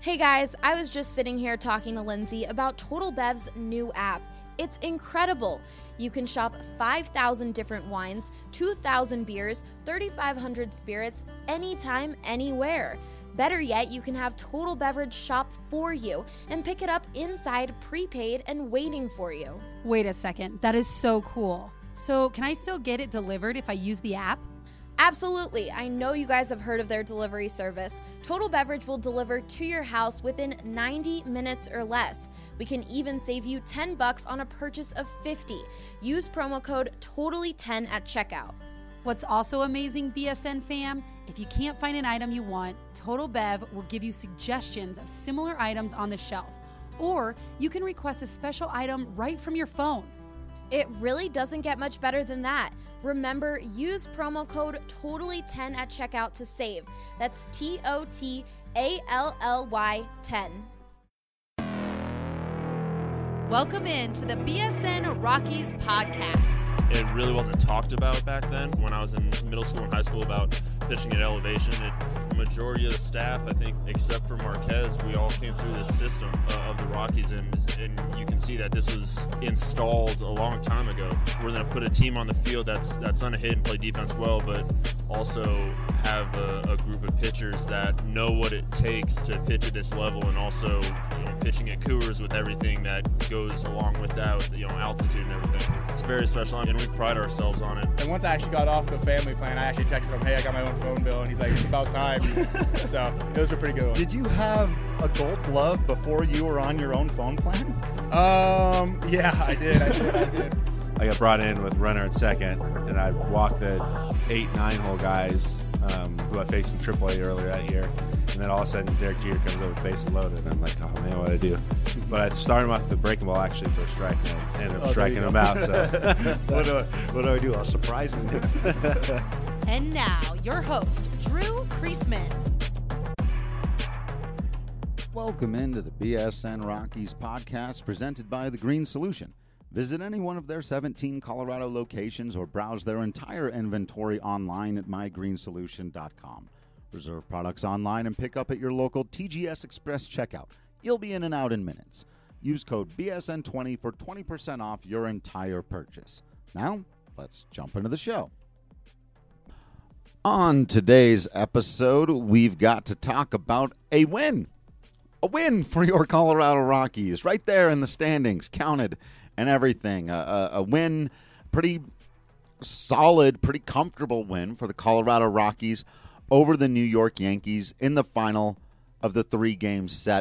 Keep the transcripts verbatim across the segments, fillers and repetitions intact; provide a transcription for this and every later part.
Hey guys, I was just sitting here talking to Lindsay about Total Bev's new app. It's incredible. You can shop five thousand different wines, two thousand beers, thirty-five hundred spirits, anytime, anywhere. Better yet, you can have Total Beverage shop for you and pick it up inside, prepaid, and waiting for you. Wait a second, that is so cool. So can I still get it delivered if I use the app? Absolutely. I know you guys have heard of their delivery service. Total Beverage will deliver to your house within ninety minutes or less. We can even save you ten bucks on a purchase of fifty. Use promo code totally ten at checkout. What's also amazing, B S N fam, if you can't find an item you want, Total Bev will give you suggestions of similar items on the shelf. Or you can request a special item right from your phone. It really doesn't get much better than that. Remember, use promo code totally ten at checkout to save. That's T O T A L L Y ten. Welcome in to the B S N Rockies podcast. It really wasn't talked about back then when I was in middle school and high school about pitching at elevation. It, the majority of the staff, I think, except for Marquez, we all came through this system uh, of the Rockies, and, and you can see that this was installed a long time ago. We're going to put a team on the field that's that's going to hit and play defense well, but also have a, a group of pitchers that know what it takes to pitch at this level, and also, you know, pitching at Coors with everything that goes along with that, with, you know, altitude and everything. It's very special, and we pride ourselves on it. And once I actually got off the family plan, I actually texted him, hey, I got my own phone bill, and he's like, it's about time. So those were pretty good ones. Did you have a Gold Glove before you were on your own phone plan? Um, yeah, I did, I did, I did. I got brought in with runner at second, and I walked the eight, nine-hole guys um, who I faced in triple A earlier that year. And then all of a sudden, Derek Jeter comes over with bases loaded, and I'm like, oh, man, what do I do? But I started him off with the breaking ball, actually, for a strike, and I ended up oh, striking him out. So. what, do I, what do I do? I'll surprise him. And now, your host, Drew Creasman. Welcome into the B S N Rockies podcast presented by The Green Solution. Visit any one of their seventeen Colorado locations or browse their entire inventory online at my green solution dot com. Reserve products online and pick up at your local T G S Express checkout. You'll be in and out in minutes. Use code B S N twenty for twenty percent off your entire purchase. Now, let's jump into the show. On today's episode, we've got to talk about a win. A win for your Colorado Rockies, right there in the standings, counted and everything. A, a, a win, pretty solid, pretty comfortable win for the Colorado Rockies over the New York Yankees in the final of the three-game set.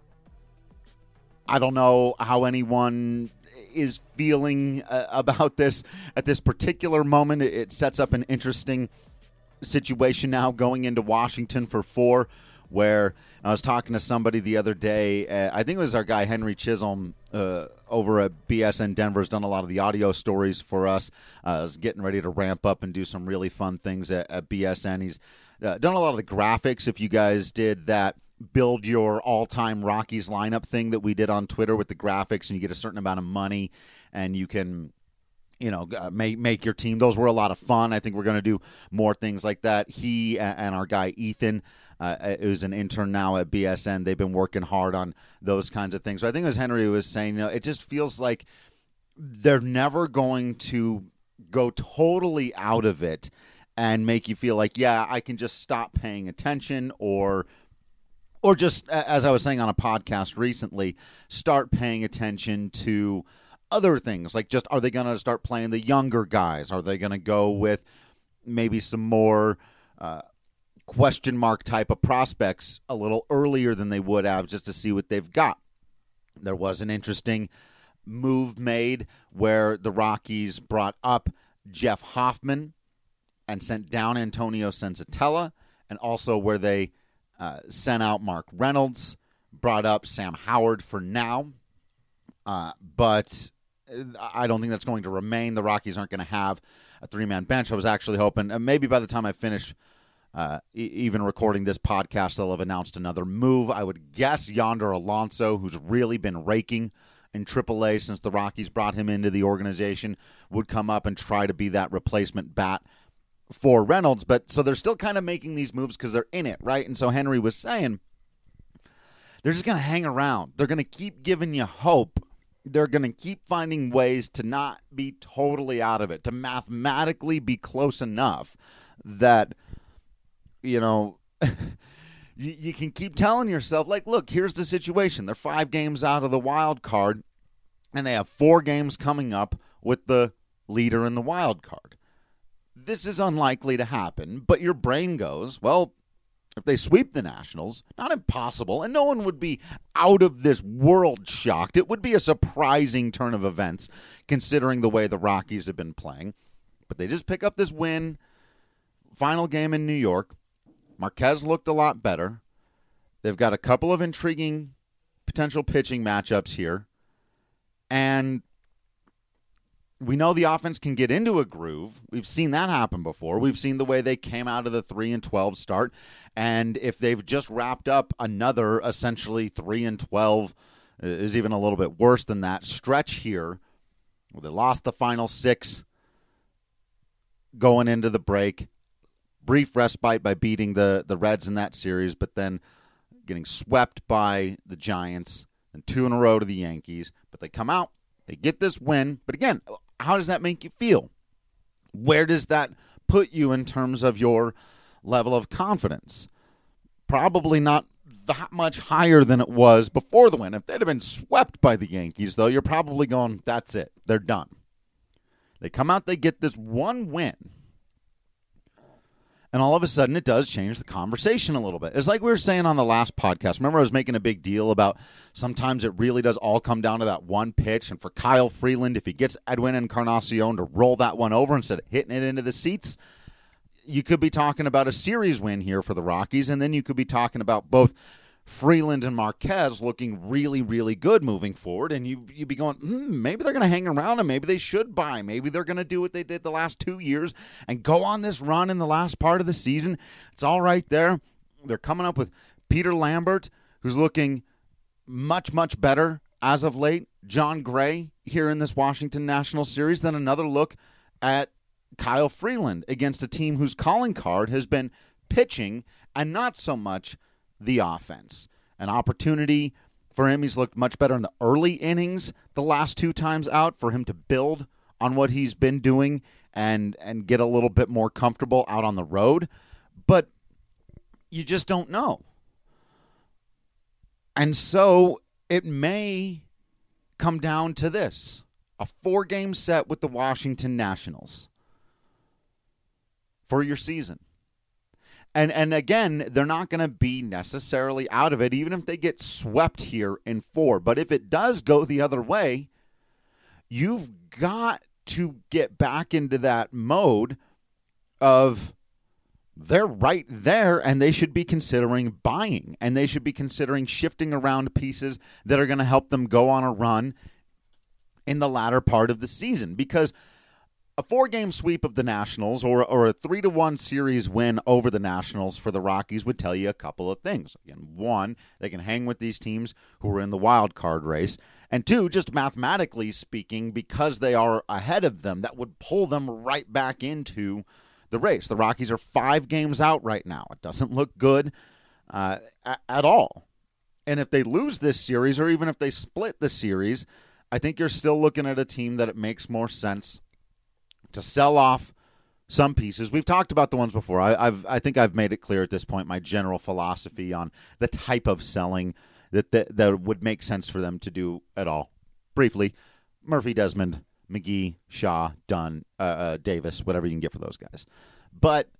I don't know how anyone is feeling uh, about this at this particular moment. It sets up an interesting situation now going into Washington for four, where I was talking to somebody the other day. Uh, I think it was our guy Henry Chisholm uh, over at B S N Denver has done a lot of the audio stories for us. Uh, is getting ready to ramp up and do some really fun things at, at B S N. He's uh, done a lot of the graphics. If you guys did that build your all-time Rockies lineup thing that we did on Twitter with the graphics, and you get a certain amount of money, and you can, you know, uh, make make your team. Those were a lot of fun. I think we're going to do more things like that. He and our guy Ethan, uh, who's an intern now at B S N, they've been working hard on those kinds of things. So I think as Henry was saying, you know, it just feels like they're never going to go totally out of it and make you feel like, yeah, I can just stop paying attention, or or just, as I was saying on a podcast recently, start paying attention to other things. Like, just, are they going to start playing the younger guys? Are they going to go with maybe some more uh, question mark type of prospects a little earlier than they would have, just to see what they've got? There was an interesting move made where the Rockies brought up Jeff Hoffman and sent down Antonio Senzatella, and also where they uh, sent out Mark Reynolds, brought up Sam Howard for now. Uh, but I don't think that's going to remain. The Rockies aren't going to have a three-man bench. I was actually hoping uh, maybe by the time I finish uh, e- even recording this podcast, they'll have announced another move. I would guess Yonder Alonso, who's really been raking in triple A since the Rockies brought him into the organization, would come up and try to be that replacement bat for Reynolds. But so they're still kind of making these moves because they're in it, right? And so Henry was saying, they're just going to hang around. They're going to keep giving you hope. They're going to keep finding ways to not be totally out of it, to mathematically be close enough that, you know, you, you can keep telling yourself, like, look, here's the situation. They're five games out of the wild card, and they have four games coming up with the leader in the wild card. This is unlikely to happen, but your brain goes, well, if they sweep the Nationals, not impossible, and no one would be out of this world shocked. It would be a surprising turn of events considering the way the Rockies have been playing. But they just pick up this win. Final game in New York. Marquez looked a lot better. They've got a couple of intriguing potential pitching matchups here. And we know the offense can get into a groove. We've seen that happen before. We've seen the way they came out of the three and twelve start. And if they've just wrapped up another essentially three and twelve, is even a little bit worse than that, stretch here, well, they lost the final six going into the break. Brief respite by beating the, the Reds in that series, but then getting swept by the Giants and two in a row to the Yankees. But they come out, they get this win. But again, how does that make you feel? Where does that put you in terms of your level of confidence? Probably not that much higher than it was before the win. If they'd have been swept by the Yankees, though, you're probably going, that's it. They're done. They come out, they get this one win. And all of a sudden, it does change the conversation a little bit. It's like we were saying on the last podcast. Remember, I was making a big deal about sometimes it really does all come down to that one pitch. And for Kyle Freeland, if he gets Edwin Encarnacion to roll that one over instead of hitting it into the seats, you could be talking about a series win here for the Rockies. And then you could be talking about both Freeland and Marquez looking really, really good moving forward. And you, you'd be going, hmm, maybe they're going to hang around and maybe they should buy. Maybe they're going to do what they did the last two years and go on this run in the last part of the season. It's all right there. They're coming up with Peter Lambert, who's looking much, much better as of late. John Gray here in this Washington Nationals series. Then another look at Kyle Freeland against a team whose calling card has been pitching and not so much the offense. An opportunity for him. He's looked much better in the early innings the last two times out for him to build on what he's been doing and and get a little bit more comfortable out on the road. But you just don't know. And so it may come down to this. A four-game set with the Washington Nationals for your season. And and again, they're not going to be necessarily out of it, even if they get swept here in four. But if it does go the other way, you've got to get back into that mode of they're right there and they should be considering buying. And they should be considering shifting around pieces that are going to help them go on a run in the latter part of the season. Because a four-game sweep of the Nationals or, or a three to one series win over the Nationals for the Rockies would tell you a couple of things. Again, one, they can hang with these teams who are in the wild card race. And two, just mathematically speaking, because they are ahead of them, that would pull them right back into the race. The Rockies are five games out right now. It doesn't look good uh, at all. And if they lose this series or even if they split the series, I think you're still looking at a team that it makes more sense to sell off some pieces. We've talked about the ones before. I, I've, I think I've made it clear at this point my general philosophy on the type of selling that, that that would make sense for them to do at all. Briefly, Murphy, Desmond, McGee, Shaw, Dunn, uh, uh, Davis, whatever you can get for those guys. But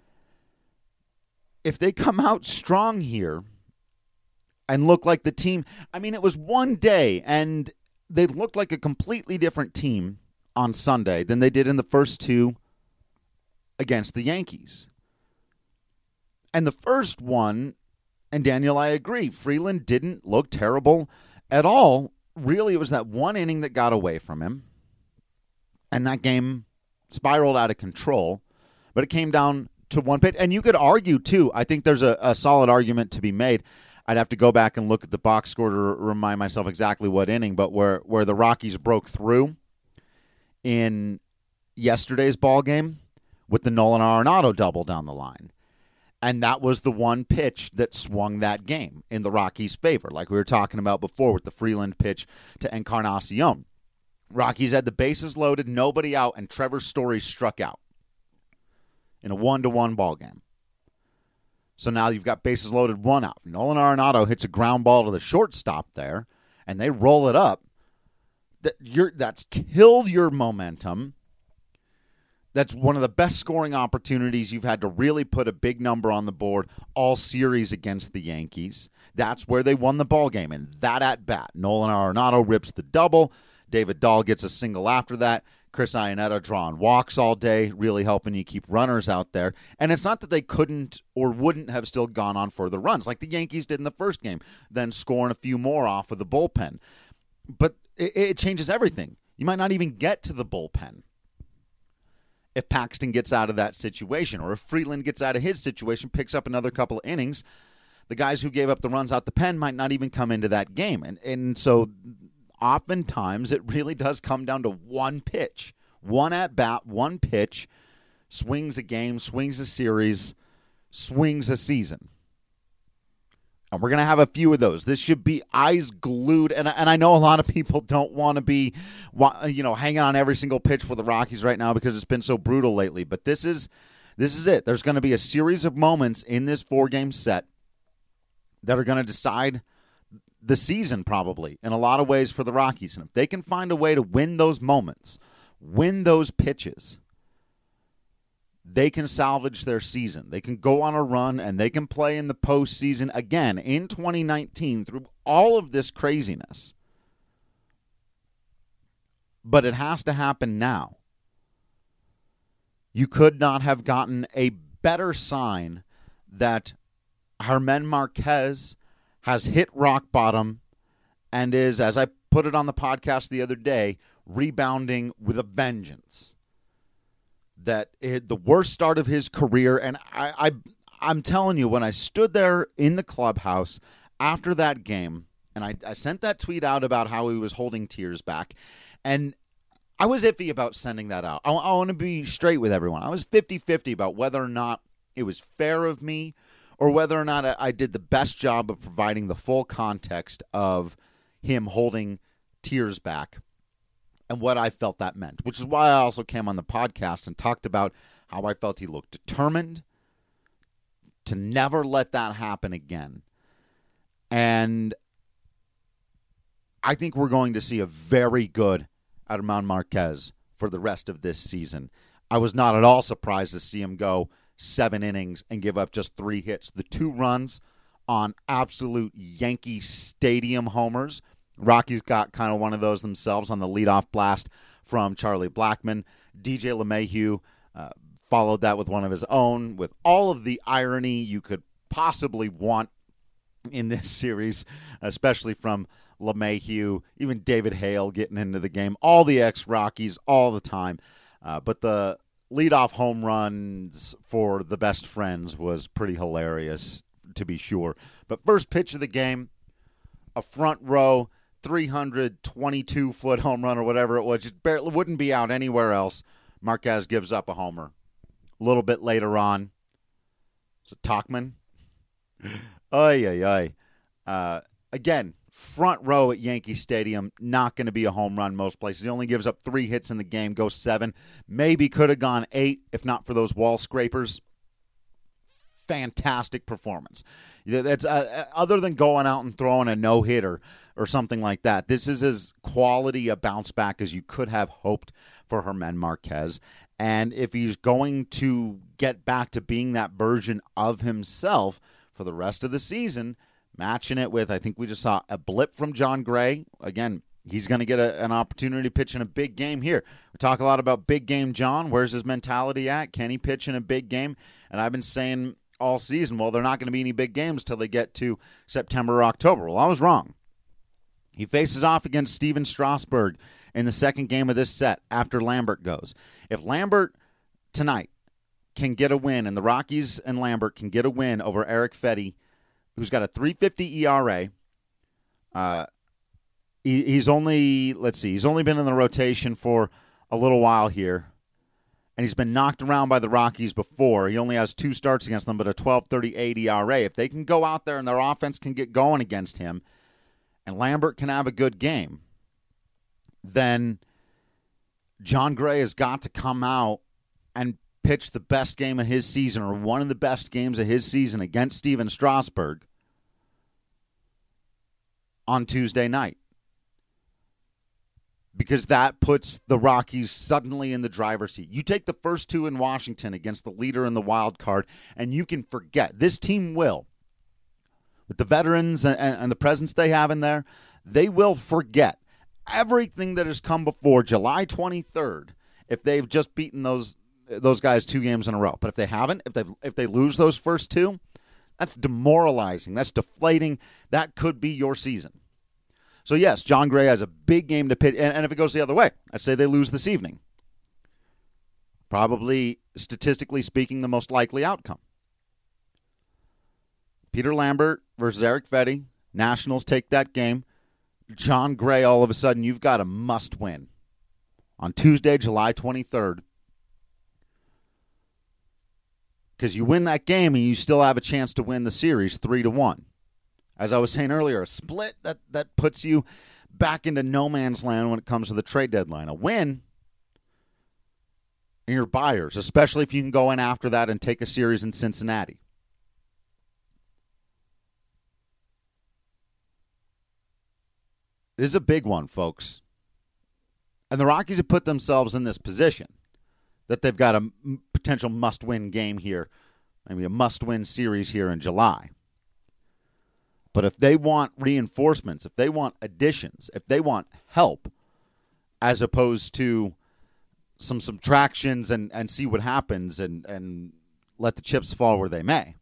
if they come out strong here and look like the team, I mean, it was one day and they looked like a completely different team on Sunday than they did in the first two against the Yankees. And the first one, and Daniel, I agree, Freeland didn't look terrible at all. Really, it was that one inning that got away from him. And that game spiraled out of control. But it came down to one pitch. And you could argue, too, I think there's a, a solid argument to be made. I'd have to go back and look at the box score to remind myself exactly what inning, but where, where the Rockies broke through in yesterday's ball game with the Nolan Arenado double down the line. And that was the one pitch that swung that game in the Rockies' favor, like we were talking about before with the Freeland pitch to Encarnacion. Rockies had the bases loaded, nobody out, and Trevor Story struck out in a one-to-one ball game. So now you've got bases loaded, one out. Nolan Arenado hits a ground ball to the shortstop there, and they roll it up. That you're, that's killed your momentum. That's one of the best scoring opportunities you've had to really put a big number on the board all series against the Yankees. That's where they won the ball game, and that at bat. Nolan Arenado rips the double. David Dahl gets a single after that. Chris Iannetta drawing walks all day, really helping you keep runners out there. And it's not that they couldn't or wouldn't have still gone on further runs like the Yankees did in the first game, then scoring a few more off of the bullpen. But it, it changes everything. You might not even get to the bullpen if Paxton gets out of that situation, or if Freeland gets out of his situation, picks up another couple of innings. The guys who gave up the runs out the pen might not even come into that game. And, and so oftentimes it really does come down to one pitch, one at-bat, one pitch, swings a game, swings a series, swings a season. And we're going to have a few of those. This should be eyes glued. And, and I know a lot of people don't want to be, you know, hanging on every single pitch for the Rockies right now because it's been so brutal lately. But this is this is it. There's going to be a series of moments in this four-game set that are going to decide the season probably in a lot of ways for the Rockies. And if they can find a way to win those moments, win those pitches, they can salvage their season. They can go on a run, and they can play in the postseason again in twenty nineteen through all of this craziness. But it has to happen now. You could not have gotten a better sign that Germán Marquez has hit rock bottom and is, as I put it on the podcast the other day, rebounding with a vengeance. That it, the worst start of his career, and I, I, I'm telling you, when I stood there in the clubhouse after that game, and I, I sent that tweet out about how he was holding tears back, and I was iffy about sending that out. I, I want to be straight with everyone. I was fifty-fifty about whether or not it was fair of me or whether or not I, I did the best job of providing the full context of him holding tears back and what I felt that meant, which is why I also came on the podcast and talked about how I felt he looked determined to never let that happen again. And I think we're going to see a very good Germán Marquez for the rest of this season. I was not at all surprised to see him go seven innings and give up just three hits. The two runs on absolute Yankee Stadium homers. Rockies got kind of one of those themselves on the leadoff blast from Charlie Blackmon. D J LeMahieu uh, followed that with one of his own, with all of the irony you could possibly want in this series, especially from LeMahieu, even David Hale getting into the game, all the ex-Rockies all the time. Uh, but the leadoff home runs for the best friends was pretty hilarious, to be sure. But first pitch of the game, a front row, three hundred twenty-two foot home run or whatever it was, just barely wouldn't be out anywhere else. Marquez gives up a homer. A little bit later on, is it Tauchman? Oy, oy, oy. Uh, again, front row at Yankee Stadium, not going to be a home run most places. He only gives up three hits in the game, goes seven. Maybe could have gone eight if not for those wall scrapers. Fantastic performance. That's uh, other than going out and throwing a no-hitter or something like that. This is as quality a bounce back as you could have hoped for Germán Marquez. And if he's going to get back to being that version of himself for the rest of the season, matching it with, I think we just saw a blip from John Gray. Again, he's going to get a, an opportunity to pitch in a big game here. We talk a lot about big game John. Where's his mentality at? Can he pitch in a big game? And I've been saying all season, well, they're not going to be any big games till they get to September or October. Well, I was wrong. He faces off against Steven Strasburg in the second game of this set after Lambert goes. If Lambert tonight can get a win, and the Rockies and Lambert can get a win over Eric Fedde, who's got a three fifty E R A, uh, he, he's only, let's see, he's only been in the rotation for a little while here. and he's been knocked around by the Rockies before. He only has two starts against them, but a twelve thirty-eight E R A. If they can go out there and their offense can get going against him, and Lambert can have a good game, then Jon Gray has got to come out and pitch the best game of his season, or one of the best games of his season, against Steven Strasburg on Tuesday night. Because that puts the Rockies suddenly in the driver's seat. You take the first two in Washington against the leader in the wild card, and you can forget. This team will. With the veterans and, and the presence they have in there, they will forget everything that has come before July twenty-third if they've just beaten those those guys two games in a row. But if they haven't, if they if they lose those first two, that's demoralizing. That's deflating. That could be your season. So, yes, Jon Gray has a big game to pitch. And, and if it goes the other way, I'd say they lose this evening. Probably, statistically speaking, the most likely outcome. Peter Lambert versus Eric Fedde. Nationals take that game. Jon Gray, all of a sudden, you've got a must-win on Tuesday, July twenty-third. Because you win that game and you still have a chance to win the series three to one. As I was saying earlier, a split that, that puts you back into no man's land when it comes to the trade deadline. A win in your buyers, especially if you can go in after that and take a series in Cincinnati. This is a big one, folks. And the Rockies have put themselves in this position that they've got a potential must-win game here, maybe a must-win series here in July. But if they want reinforcements, if they want additions, if they want help, as opposed to some subtractions and, and see what happens and, and let the chips fall where they may,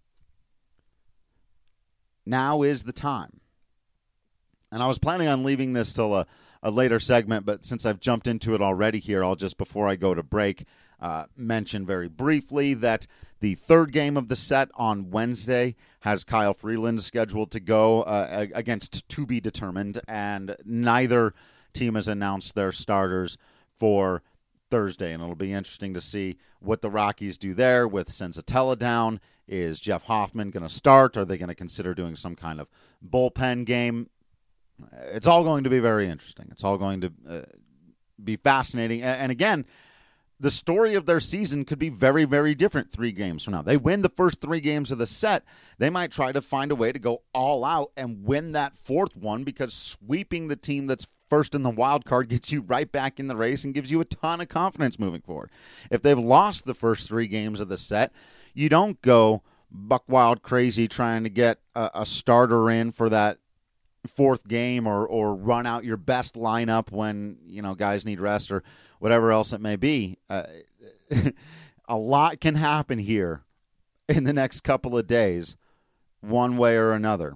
now is the time. And I was planning on leaving this till a, a later segment, but since I've jumped into it already here, I'll just, before I go to break, uh, mention very briefly that the third game of the set on Wednesday has Kyle Freeland scheduled to go uh, against to be determined, and neither team has announced their starters for Thursday, and it'll be interesting to see what the Rockies do there with Senzatella down. Is Jeff Hoffman going to start? Are they going to consider doing some kind of bullpen game? It's all going to be very interesting. It's all going to uh, be fascinating. And, and again, the story of their season could be very, very different three games from now. They win the first three games of the set. They might try to find a way to go all out and win that fourth one, because sweeping the team that's first in the wild card gets you right back in the race and gives you a ton of confidence moving forward. If they've lost the first three games of the set, you don't go buck wild crazy trying to get a, a starter in for that fourth game, or or run out your best lineup when, you know, guys need rest or whatever else it may be. Uh, a lot can happen here in the next couple of days, one way or another.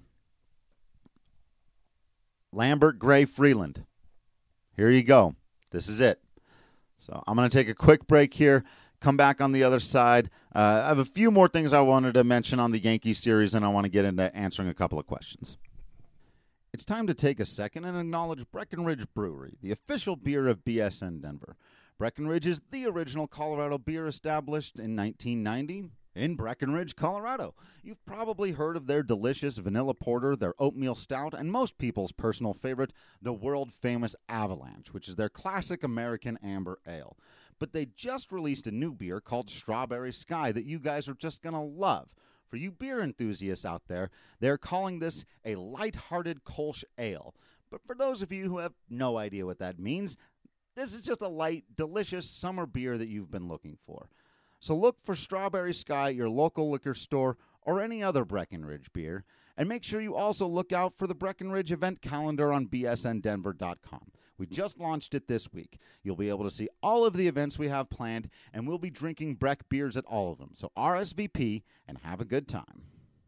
Lambert, Gray, Freeland. Here you go. This is it. So I'm going to take a quick break here, come back on the other side. Uh, I have a few more things I wanted to mention on the Yankees series, and I want to get into answering a couple of questions. It's time to take a second and acknowledge Breckenridge Brewery, the official beer of B S N Denver. Breckenridge is the original Colorado beer established in nineteen ninety in Breckenridge, Colorado. You've probably heard of their delicious vanilla porter, their oatmeal stout, and most people's personal favorite, the world-famous Avalanche, which is their classic American amber ale. But they just released a new beer called Strawberry Sky that you guys are just going to love. For you beer enthusiasts out there, they're calling this a light-hearted Kolsch ale. But for those of you who have no idea what that means, this is just a light, delicious summer beer that you've been looking for. So look for Strawberry Sky at your local liquor store or any other Breckenridge beer. And make sure you also look out for the Breckenridge event calendar on B S N Denver dot com. We just launched it this week. You'll be able to see all of the events we have planned, and we'll be drinking Breck beers at all of them. So R S V P and have a good time.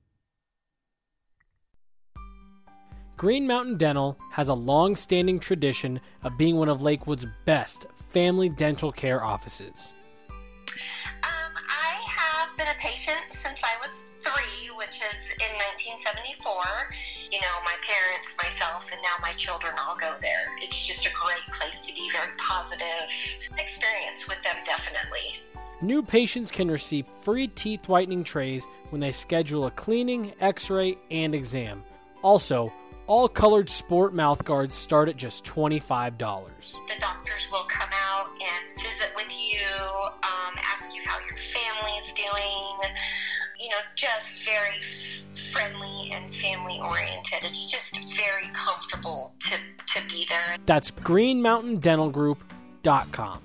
Green Mountain Dental has a long-standing tradition of being one of Lakewood's best family dental care offices. Um, I have been a patient since I was three, which is in nineteen seventy-four. You know, my parents, myself, and now my children all go there. It's just a great place to be, very positive experience with them, definitely. New patients can receive free teeth whitening trays when they schedule a cleaning, x-ray, and exam. Also, all colored sport mouth guards start at just twenty-five dollars. The doctors will come out and visit with you, um, ask you how your family's doing, you know, just very friendly and family oriented. It's just very comfortable to, to be there. That's green mountain dental group dot com.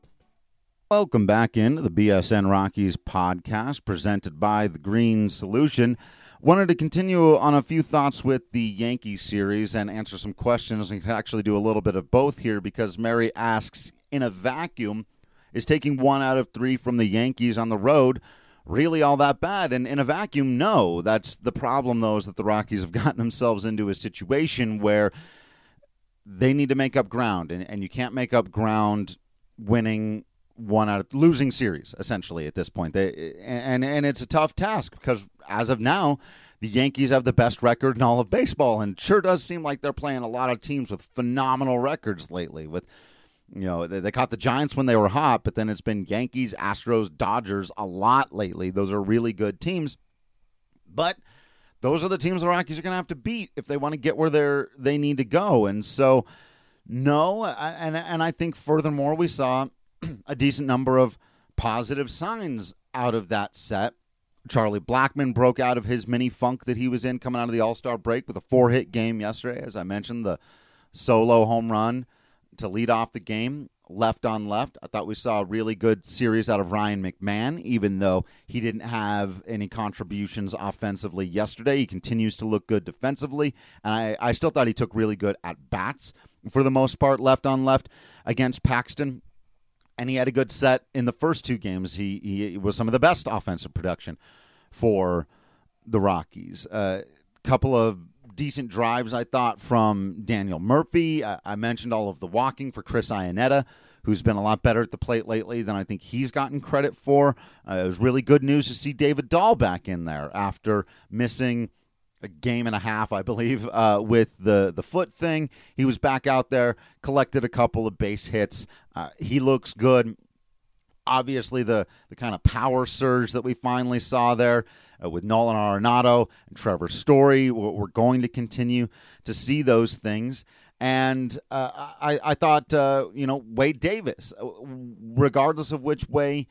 Welcome back into the B S N Rockies podcast presented by The Green Solution. Wanted to continue on a few thoughts with the Yankee series and answer some questions. We can actually do a little bit of both here because Mary asks, in a vacuum, is taking one out of three from the Yankees on the road really all that bad? And in a vacuum, no. That's the problem, though, is that the Rockies have gotten themselves into a situation where they need to make up ground, and, and you can't make up ground winning one out of losing series, essentially, at this point. They, and, and it's a tough task because, as of now, the Yankees have the best record in all of baseball, and it sure does seem like they're playing a lot of teams with phenomenal records lately. With, you know, they, they caught the Giants when they were hot, but then it's been Yankees, Astros, Dodgers a lot lately. Those are really good teams. But those are the teams the Rockies are going to have to beat if they want to get where they're they need to go. And so, no, and and I think furthermore, we saw a decent number of positive signs out of that set. Charlie Blackmon broke out of his mini funk that he was in coming out of the All-Star break with a four-hit game yesterday. As I mentioned, the solo home run to lead off the game, left on left. I thought we saw a really good series out of Ryan McMahon, even though he didn't have any contributions offensively yesterday. He continues to look good defensively, and I, I still thought he took really good at-bats for the most part, left on left against Paxton. And he had a good set in the first two games. He he was some of the best offensive production for the Rockies. A uh, couple of decent drives, I thought, from Daniel Murphy. I, I mentioned all of the walking for Chris Iannetta, who's been a lot better at the plate lately than I think he's gotten credit for. Uh, it was really good news to see David Dahl back in there after missing a game and a half, I believe, uh, with the, the foot thing. He was back out there, collected a couple of base hits. Uh, he looks good. Obviously, the, the kind of power surge that we finally saw there uh, with Nolan Arenado and Trevor Story, we're going to continue to see those things. And uh, I, I thought, uh, you know, Wade Davis, regardless of which way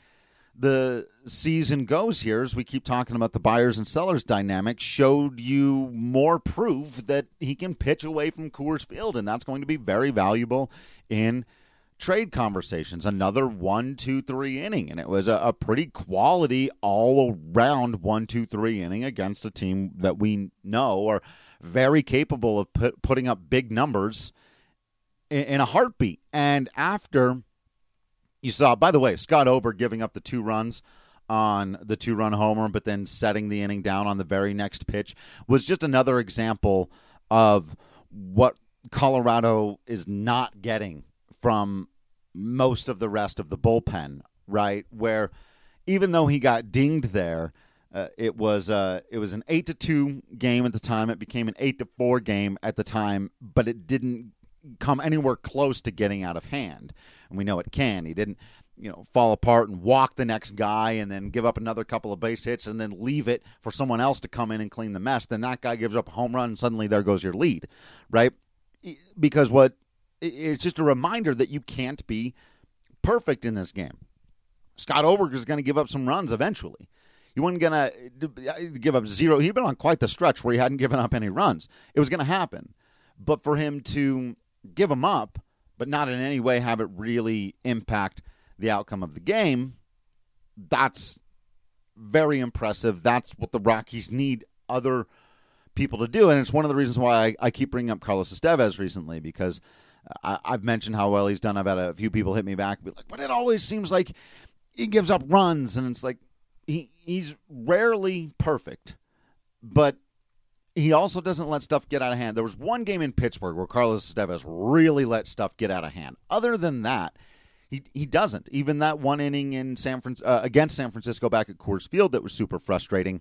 the season goes here, as we keep talking about the buyers and sellers dynamic, showed you more proof that he can pitch away from Coors Field, and that's going to be very valuable in trade conversations. Another one, two, three inning, and it was a, a pretty quality all-around one, two, three inning against a team that we know are very capable of put, putting up big numbers in, in a heartbeat. And after you saw, by the way, Scott Ober giving up the two runs on the two-run homer, but then setting the inning down on the very next pitch was just another example of what Colorado is not getting from most of the rest of the bullpen, right? Where even though he got dinged there, uh, it was uh, it was an eight to two game at the time. It became an eight to four game at the time, but it didn't come anywhere close to getting out of hand. And we know it can. He didn't, you know, fall apart and walk the next guy and then give up another couple of base hits and then leave it for someone else to come in and clean the mess. Then that guy gives up a home run and suddenly there goes your lead, right? Because what it's just a reminder that you can't be perfect in this game. Scott Oberg is going to give up some runs eventually. He wasn't going to give up zero. He'd been on quite the stretch where he hadn't given up any runs. It was going to happen. But for him to give them up, but not in any way have it really impact the outcome of the game, that's very impressive. That's what the Rockies need other people to do. And it's one of the reasons why I, I keep bringing up Carlos Estevez recently, because I, I've mentioned how well he's done. I've had a few people hit me back and be like, but it always seems like he gives up runs. And it's like, he he's rarely perfect, but he also doesn't let stuff get out of hand. There was one game in Pittsburgh where Carlos Estevez really let stuff get out of hand. Other than that, he he doesn't. Even that one inning in San Fran, uh, against San Francisco back at Coors Field that was super frustrating.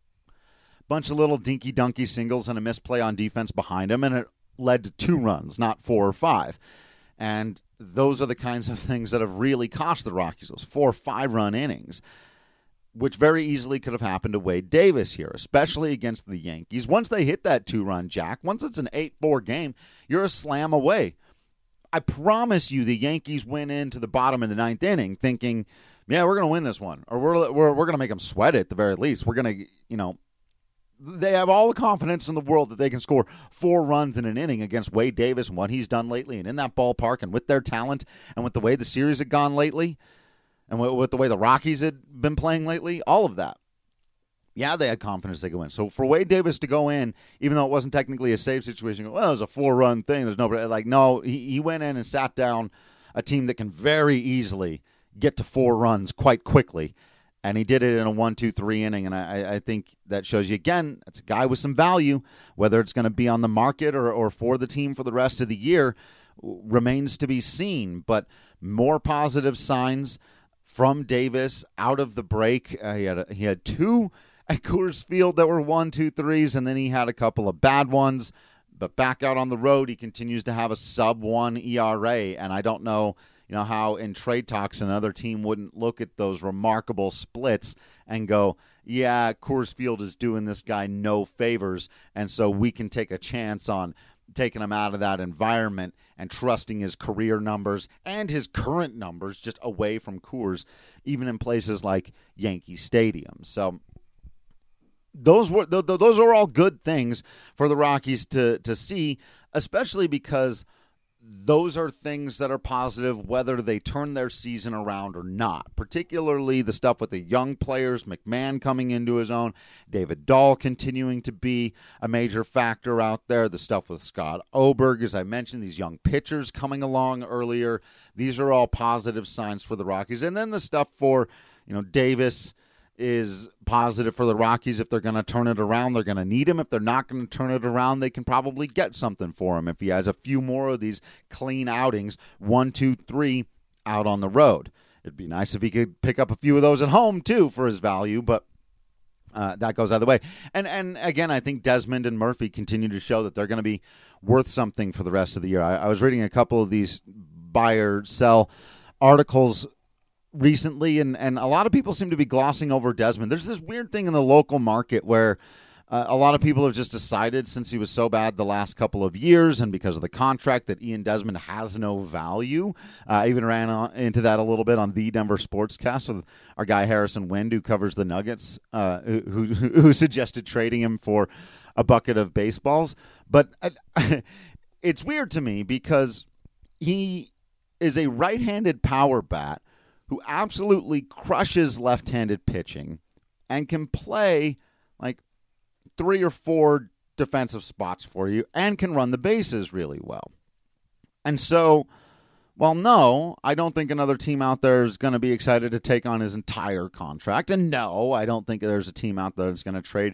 Bunch of little dinky-dunky singles and a misplay on defense behind him, and it led to two runs, not four or five. And those are the kinds of things that have really cost the Rockies those four or five-run innings, which very easily could have happened to Wade Davis here, especially against the Yankees. Once they hit that two-run jack, once it's an eight four game, you're a slam away. I promise you the Yankees went into the bottom of the ninth inning thinking, yeah, we're going to win this one, or we're we're, we're going to make them sweat it at the very least. We're going to, you know, they have all the confidence in the world that they can score four runs in an inning against Wade Davis and what he's done lately, and in that ballpark and with their talent and with the way the series had gone lately and with the way the Rockies had been playing lately, all of that. Yeah, they had confidence they could win. So for Wade Davis to go in, even though it wasn't technically a save situation, well, it was a four-run thing. There's no, like, no, he, he went in and sat down a team that can very easily get to four runs quite quickly. And he did it in a one, two, three inning, and I, I think that shows you, again, that's a guy with some value. Whether it's going to be on the market or, or for the team for the rest of the year remains to be seen. But more positive signs from Davis out of the break. Uh, he, had a, he had two at Coors Field that were one, two, threes, and then he had a couple of bad ones. But back out on the road, he continues to have a sub one E R A, and I don't know You know, how in trade talks another team wouldn't look at those remarkable splits and go, yeah, Coors Field is doing this guy no favors, and so we can take a chance on taking him out of that environment and trusting his career numbers and his current numbers just away from Coors, even in places like Yankee Stadium. So those were th- th- those are all good things for the Rockies to to see, especially because those are things that are positive whether they turn their season around or not, particularly the stuff with the young players, McMahon coming into his own, David Dahl continuing to be a major factor out there, the stuff with Scott Oberg, as I mentioned, these young pitchers coming along earlier. These are all positive signs for the Rockies. And then the stuff for, you know, Davis is positive for the Rockies. If they're going to turn it around, they're going to need him. If they're not going to turn it around, they can probably get something for him if he has a few more of these clean outings, one, two, three, out on the road. It'd be nice if he could pick up a few of those at home, too, for his value, but uh, that goes either way. And, and again, I think Desmond and Murphy continue to show that they're going to be worth something for the rest of the year. I, I was reading a couple of these buy or sell articles recently, and, and a lot of people seem to be glossing over Desmond. There's this weird thing in the local market where uh, a lot of people have just decided, since he was so bad the last couple of years and because of the contract, that Ian Desmond has no value. Uh, I even ran on, into that a little bit on the Denver Sportscast with our guy Harrison Wind, who covers the Nuggets, uh, who, who, who suggested trading him for a bucket of baseballs. But uh, it's weird to me because he is a right-handed power bat who absolutely crushes left-handed pitching and can play like three or four defensive spots for you and can run the bases really well. And so, well, no, I don't think another team out there is going to be excited to take on his entire contract. And no, I don't think there's a team out there that's going to trade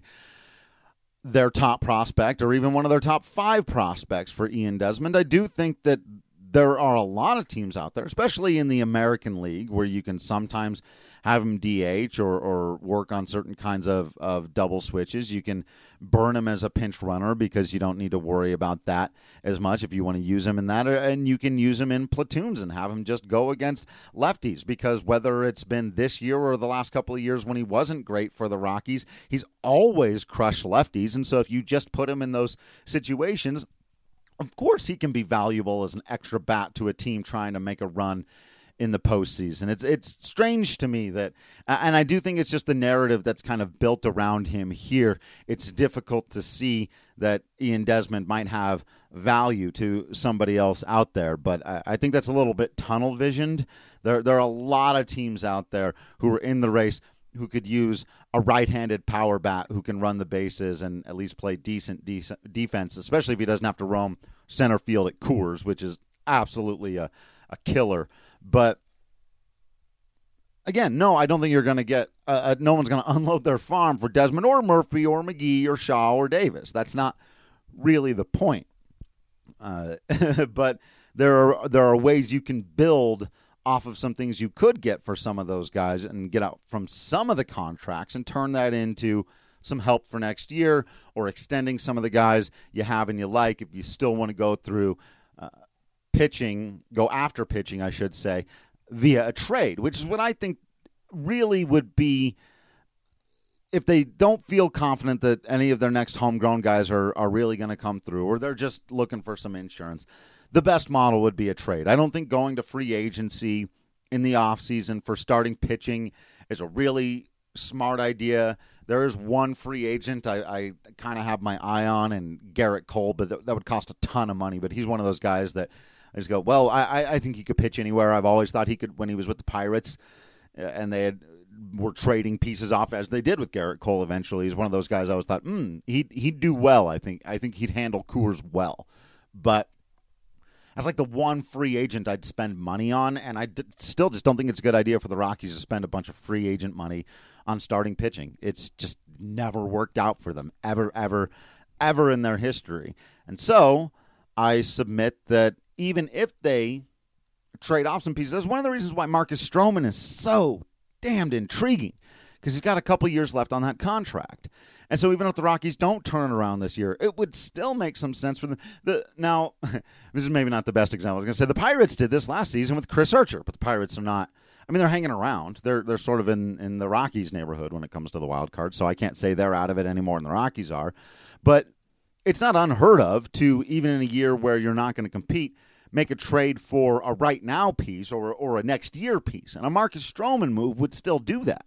their top prospect or even one of their top five prospects for Ian Desmond. I do think that there are a lot of teams out there, especially in the American League, where you can sometimes have him D H or, or work on certain kinds of, of double switches. You can burn him as a pinch runner because you don't need to worry about that as much if you want to use him in that. And you can use him in platoons and have him just go against lefties, because whether it's been this year or the last couple of years when he wasn't great for the Rockies, he's always crushed lefties. And so if you just put him in those situations, of course he can be valuable as an extra bat to a team trying to make a run in the postseason. It's it's strange to me that, and I do think it's just the narrative that's kind of built around him here. It's difficult to see that Ian Desmond might have value to somebody else out there, but I, I think that's a little bit tunnel visioned. There, there are a lot of teams out there who are in the race who could use a right-handed power bat who can run the bases and at least play decent, decent defense, especially if he doesn't have to roam center field at Coors, which is absolutely a, a killer. But again, no, I don't think you're going to get uh, – no one's going to unload their farm for Desmond or Murphy or McGee or Shaw or Davis. That's not really the point. Uh, but there are there are ways you can build – off of some things you could get for some of those guys and get out from some of the contracts and turn that into some help for next year, or extending some of the guys you have and you like if you still want to go through uh, pitching, go after pitching, I should say, via a trade, which is what I think really would be, if they don't feel confident that any of their next homegrown guys are, are really going to come through, or they're just looking for some insurance, the best model would be a trade. I don't think going to free agency in the offseason for starting pitching is a really smart idea. There is one free agent I, I kind of have my eye on, and Garrett Cole, but th- that would cost a ton of money. But he's one of those guys that I just go, well, I, I think he could pitch anywhere. I've always thought he could when he was with the Pirates, uh, and they had, were trading pieces off as they did with Garrett Cole eventually. He's one of those guys I always thought, hmm, he'd, he'd do well, I think. I think he'd handle Coors well. But that's like the one free agent I'd spend money on, and I d- still just don't think it's a good idea for the Rockies to spend a bunch of free agent money on starting pitching. It's just never worked out for them, ever, ever, ever in their history. And so I submit that even if they trade off some pieces, that's one of the reasons why Marcus Stroman is so damned intriguing, because he's got a couple years left on that contract. And so even if the Rockies don't turn around this year, it would still make some sense for them. The, now, this is maybe not the best example. I was going to say the Pirates did this last season with Chris Archer, but the Pirates are not. I mean, they're hanging around. They're they're sort of in, in the Rockies neighborhood when it comes to the wild card, so I can't say they're out of it any more than the Rockies are. But it's not unheard of to, even in a year where you're not going to compete, make a trade for a right now piece or or a next year piece. And a Marcus Stroman move would still do that.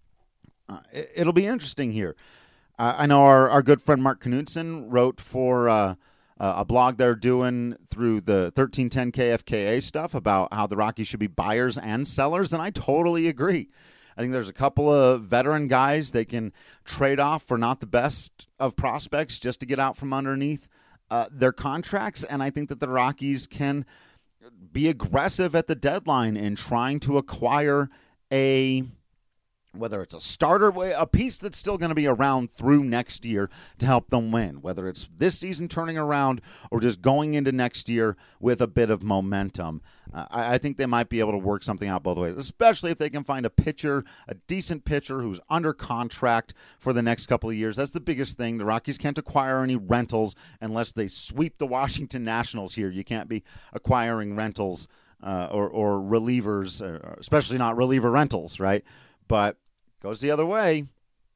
Uh, it, it'll be interesting here. Uh, I know our, our good friend Mark Knudsen wrote for uh, a blog they're doing through the thirteen ten K F K A stuff about how the Rockies should be buyers and sellers, and I totally agree. I think there's a couple of veteran guys they can trade off for not the best of prospects just to get out from underneath uh, their contracts, and I think that the Rockies can be aggressive at the deadline in trying to acquire a, whether it's a starter, a piece that's still going to be around through next year to help them win, whether it's this season turning around or just going into next year with a bit of momentum. Uh, I, I think they might be able to work something out both ways, especially if they can find a pitcher, a decent pitcher who's under contract for the next couple of years. That's the biggest thing. The Rockies can't acquire any rentals unless they sweep the Washington Nationals here. You can't be acquiring rentals uh, or, or relievers, uh, especially not reliever rentals, right? But goes the other way.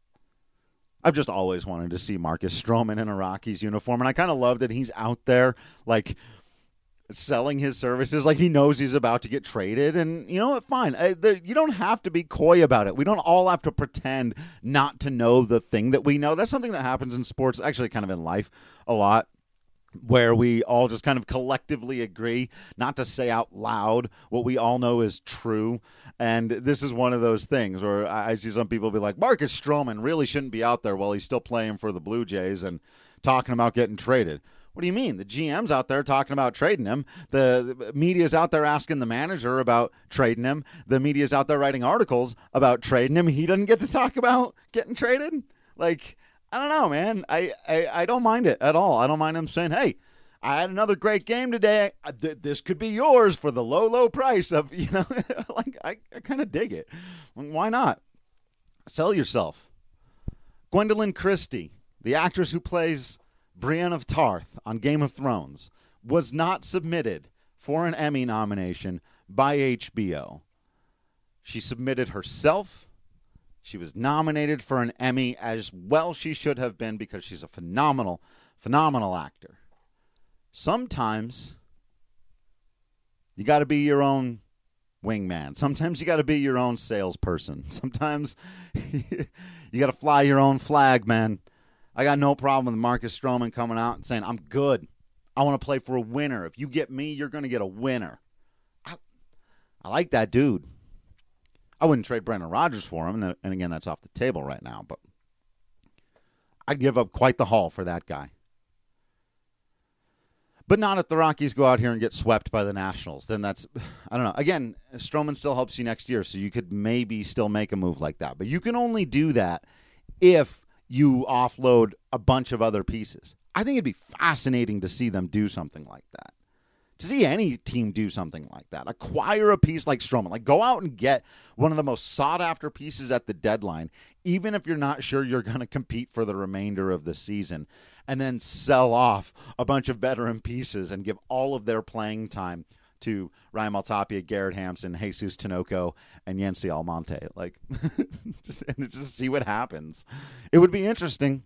I've just always wanted to see Marcus Stroman in a Rockies uniform, and I kind of love that he's out there, like, selling his services like he knows he's about to get traded. And you know what? Fine. I, the, you don't have to be coy about it. We don't all have to pretend not to know the thing that we know. That's something that happens in sports, actually kind of in life a lot, where we all just kind of collectively agree not to say out loud what we all know is true. And this is one of those things where I see some people be like, Marcus Stroman really shouldn't be out there while he's still playing for the Blue Jays and talking about getting traded. What do you mean? The G M's out there talking about trading him. The, the media's out there asking the manager about trading him. The media's out there writing articles about trading him. He doesn't get to talk about getting traded? Like, I don't know, man. I, I, I don't mind it at all. I don't mind him saying, hey, I had another great game today. This could be yours for the low, low price of, you know, like, I, I kind of dig it. Why not? Sell yourself. Gwendolyn Christie, the actress who plays Brienne of Tarth on Game of Thrones, was not submitted for an Emmy nomination by H B O. She submitted herself. She was nominated for an Emmy, as well she should have been, because she's a phenomenal, phenomenal actor. Sometimes you got to be your own wingman. Sometimes you got to be your own salesperson. Sometimes you got to fly your own flag, man. I got no problem with Marcus Stroman coming out and saying, I'm good. I want to play for a winner. If you get me, you're going to get a winner. I, I like that dude. I wouldn't trade Brendan Rodgers for him, and, and again, that's off the table right now, but I'd give up quite the haul for that guy. But not if the Rockies go out here and get swept by the Nationals. Then that's, I don't know. Again, Stroman still helps you next year, so you could maybe still make a move like that. But you can only do that if you offload a bunch of other pieces. I think it'd be fascinating to see them do something like that. to see any team do something like that. Acquire a piece like Stroman. Like, go out and get one of the most sought-after pieces at the deadline, even if you're not sure you're going to compete for the remainder of the season, and then sell off a bunch of veteran pieces and give all of their playing time to Ryan Maltapia, Garrett Hampson, Jesus Tinoco, and Yency Almonte. Like, just, and just see what happens. It would be interesting.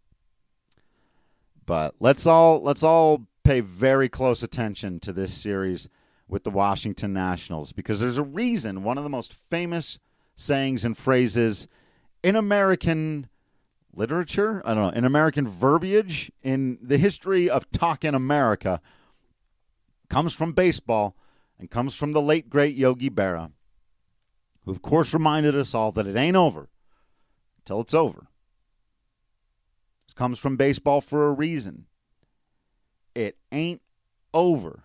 But let's all let's all pay very close attention to this series with the Washington Nationals, because there's a reason one of the most famous sayings and phrases in American literature, I don't know, in American verbiage, in the history of talk in America, comes from baseball and comes from the late, great Yogi Berra, who, of course, reminded us all that it ain't over until it's over. This comes from baseball for a reason. It ain't over.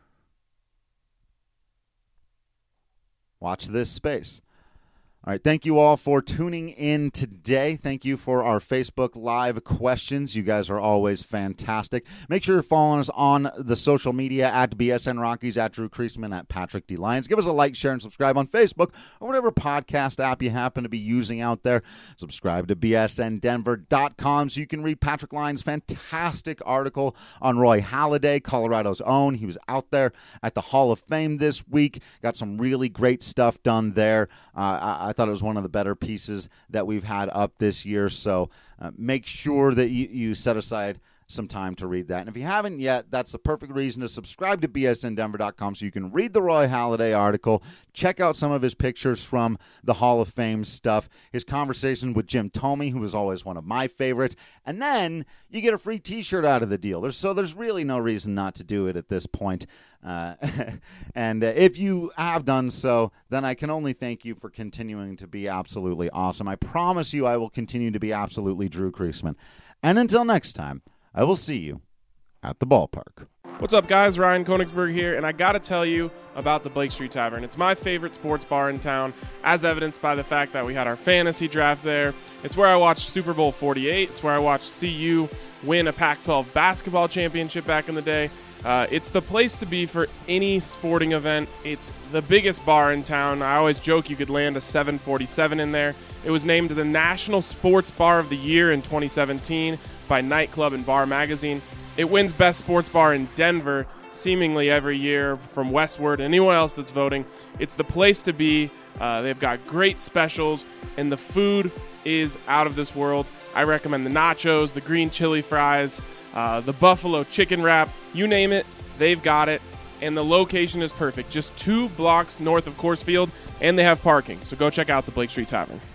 Watch this space. All right, thank you all for tuning in today. Thank you for our Facebook Live questions. You guys are always fantastic. Make sure you're following us on the social media at B S N Rockies, at Drew Creasman, at Patrick D. Lyons. Give us a like, share, and subscribe on Facebook or whatever podcast app you happen to be using out there. Subscribe to B S N Denver dot com so you can read Patrick Lyons' fantastic article on Roy Halladay, Colorado's own. He was out there at the Hall of Fame this week. Got some really great stuff done there. Uh, I, I I thought it was one of the better pieces that we've had up this year, so uh, make sure that you, you set aside some time to read that. And if you haven't yet, that's the perfect reason to subscribe to B S N Denver dot com so you can read the Roy Halladay article, check out some of his pictures from the Hall of Fame stuff, his conversation with Jim Thome, who was always one of my favorites, and then you get a free T-shirt out of the deal. There's, so there's really no reason not to do it at this point. Uh, and uh, if you have done so, then I can only thank you for continuing to be absolutely awesome. I promise you I will continue to be absolutely Drew Creasman. And until next time, I will see you at the ballpark. What's up, guys? Ryan Koenigsberg here, and I got to tell you about the Blake Street Tavern. It's my favorite sports bar in town, as evidenced by the fact that we had our fantasy draft there. It's where I watched Super Bowl forty-eight. It's where I watched C U win a Pac twelve basketball championship back in the day. Uh, it's the place to be for any sporting event. It's the biggest bar in town. I always joke you could land a seven forty-seven in there. It was named the National Sports Bar of the Year in twenty seventeen by Nightclub and Bar Magazine. It wins Best Sports Bar in Denver seemingly every year from Westward. Anyone else that's voting, it's the place to be. Uh, they've got great specials, and the food is out of this world. I recommend the nachos, the green chili fries, uh, the buffalo chicken wrap. You name it, they've got it. And the location is perfect. Just two blocks north of Coors Field, and they have parking. So go check out the Blake Street Tavern.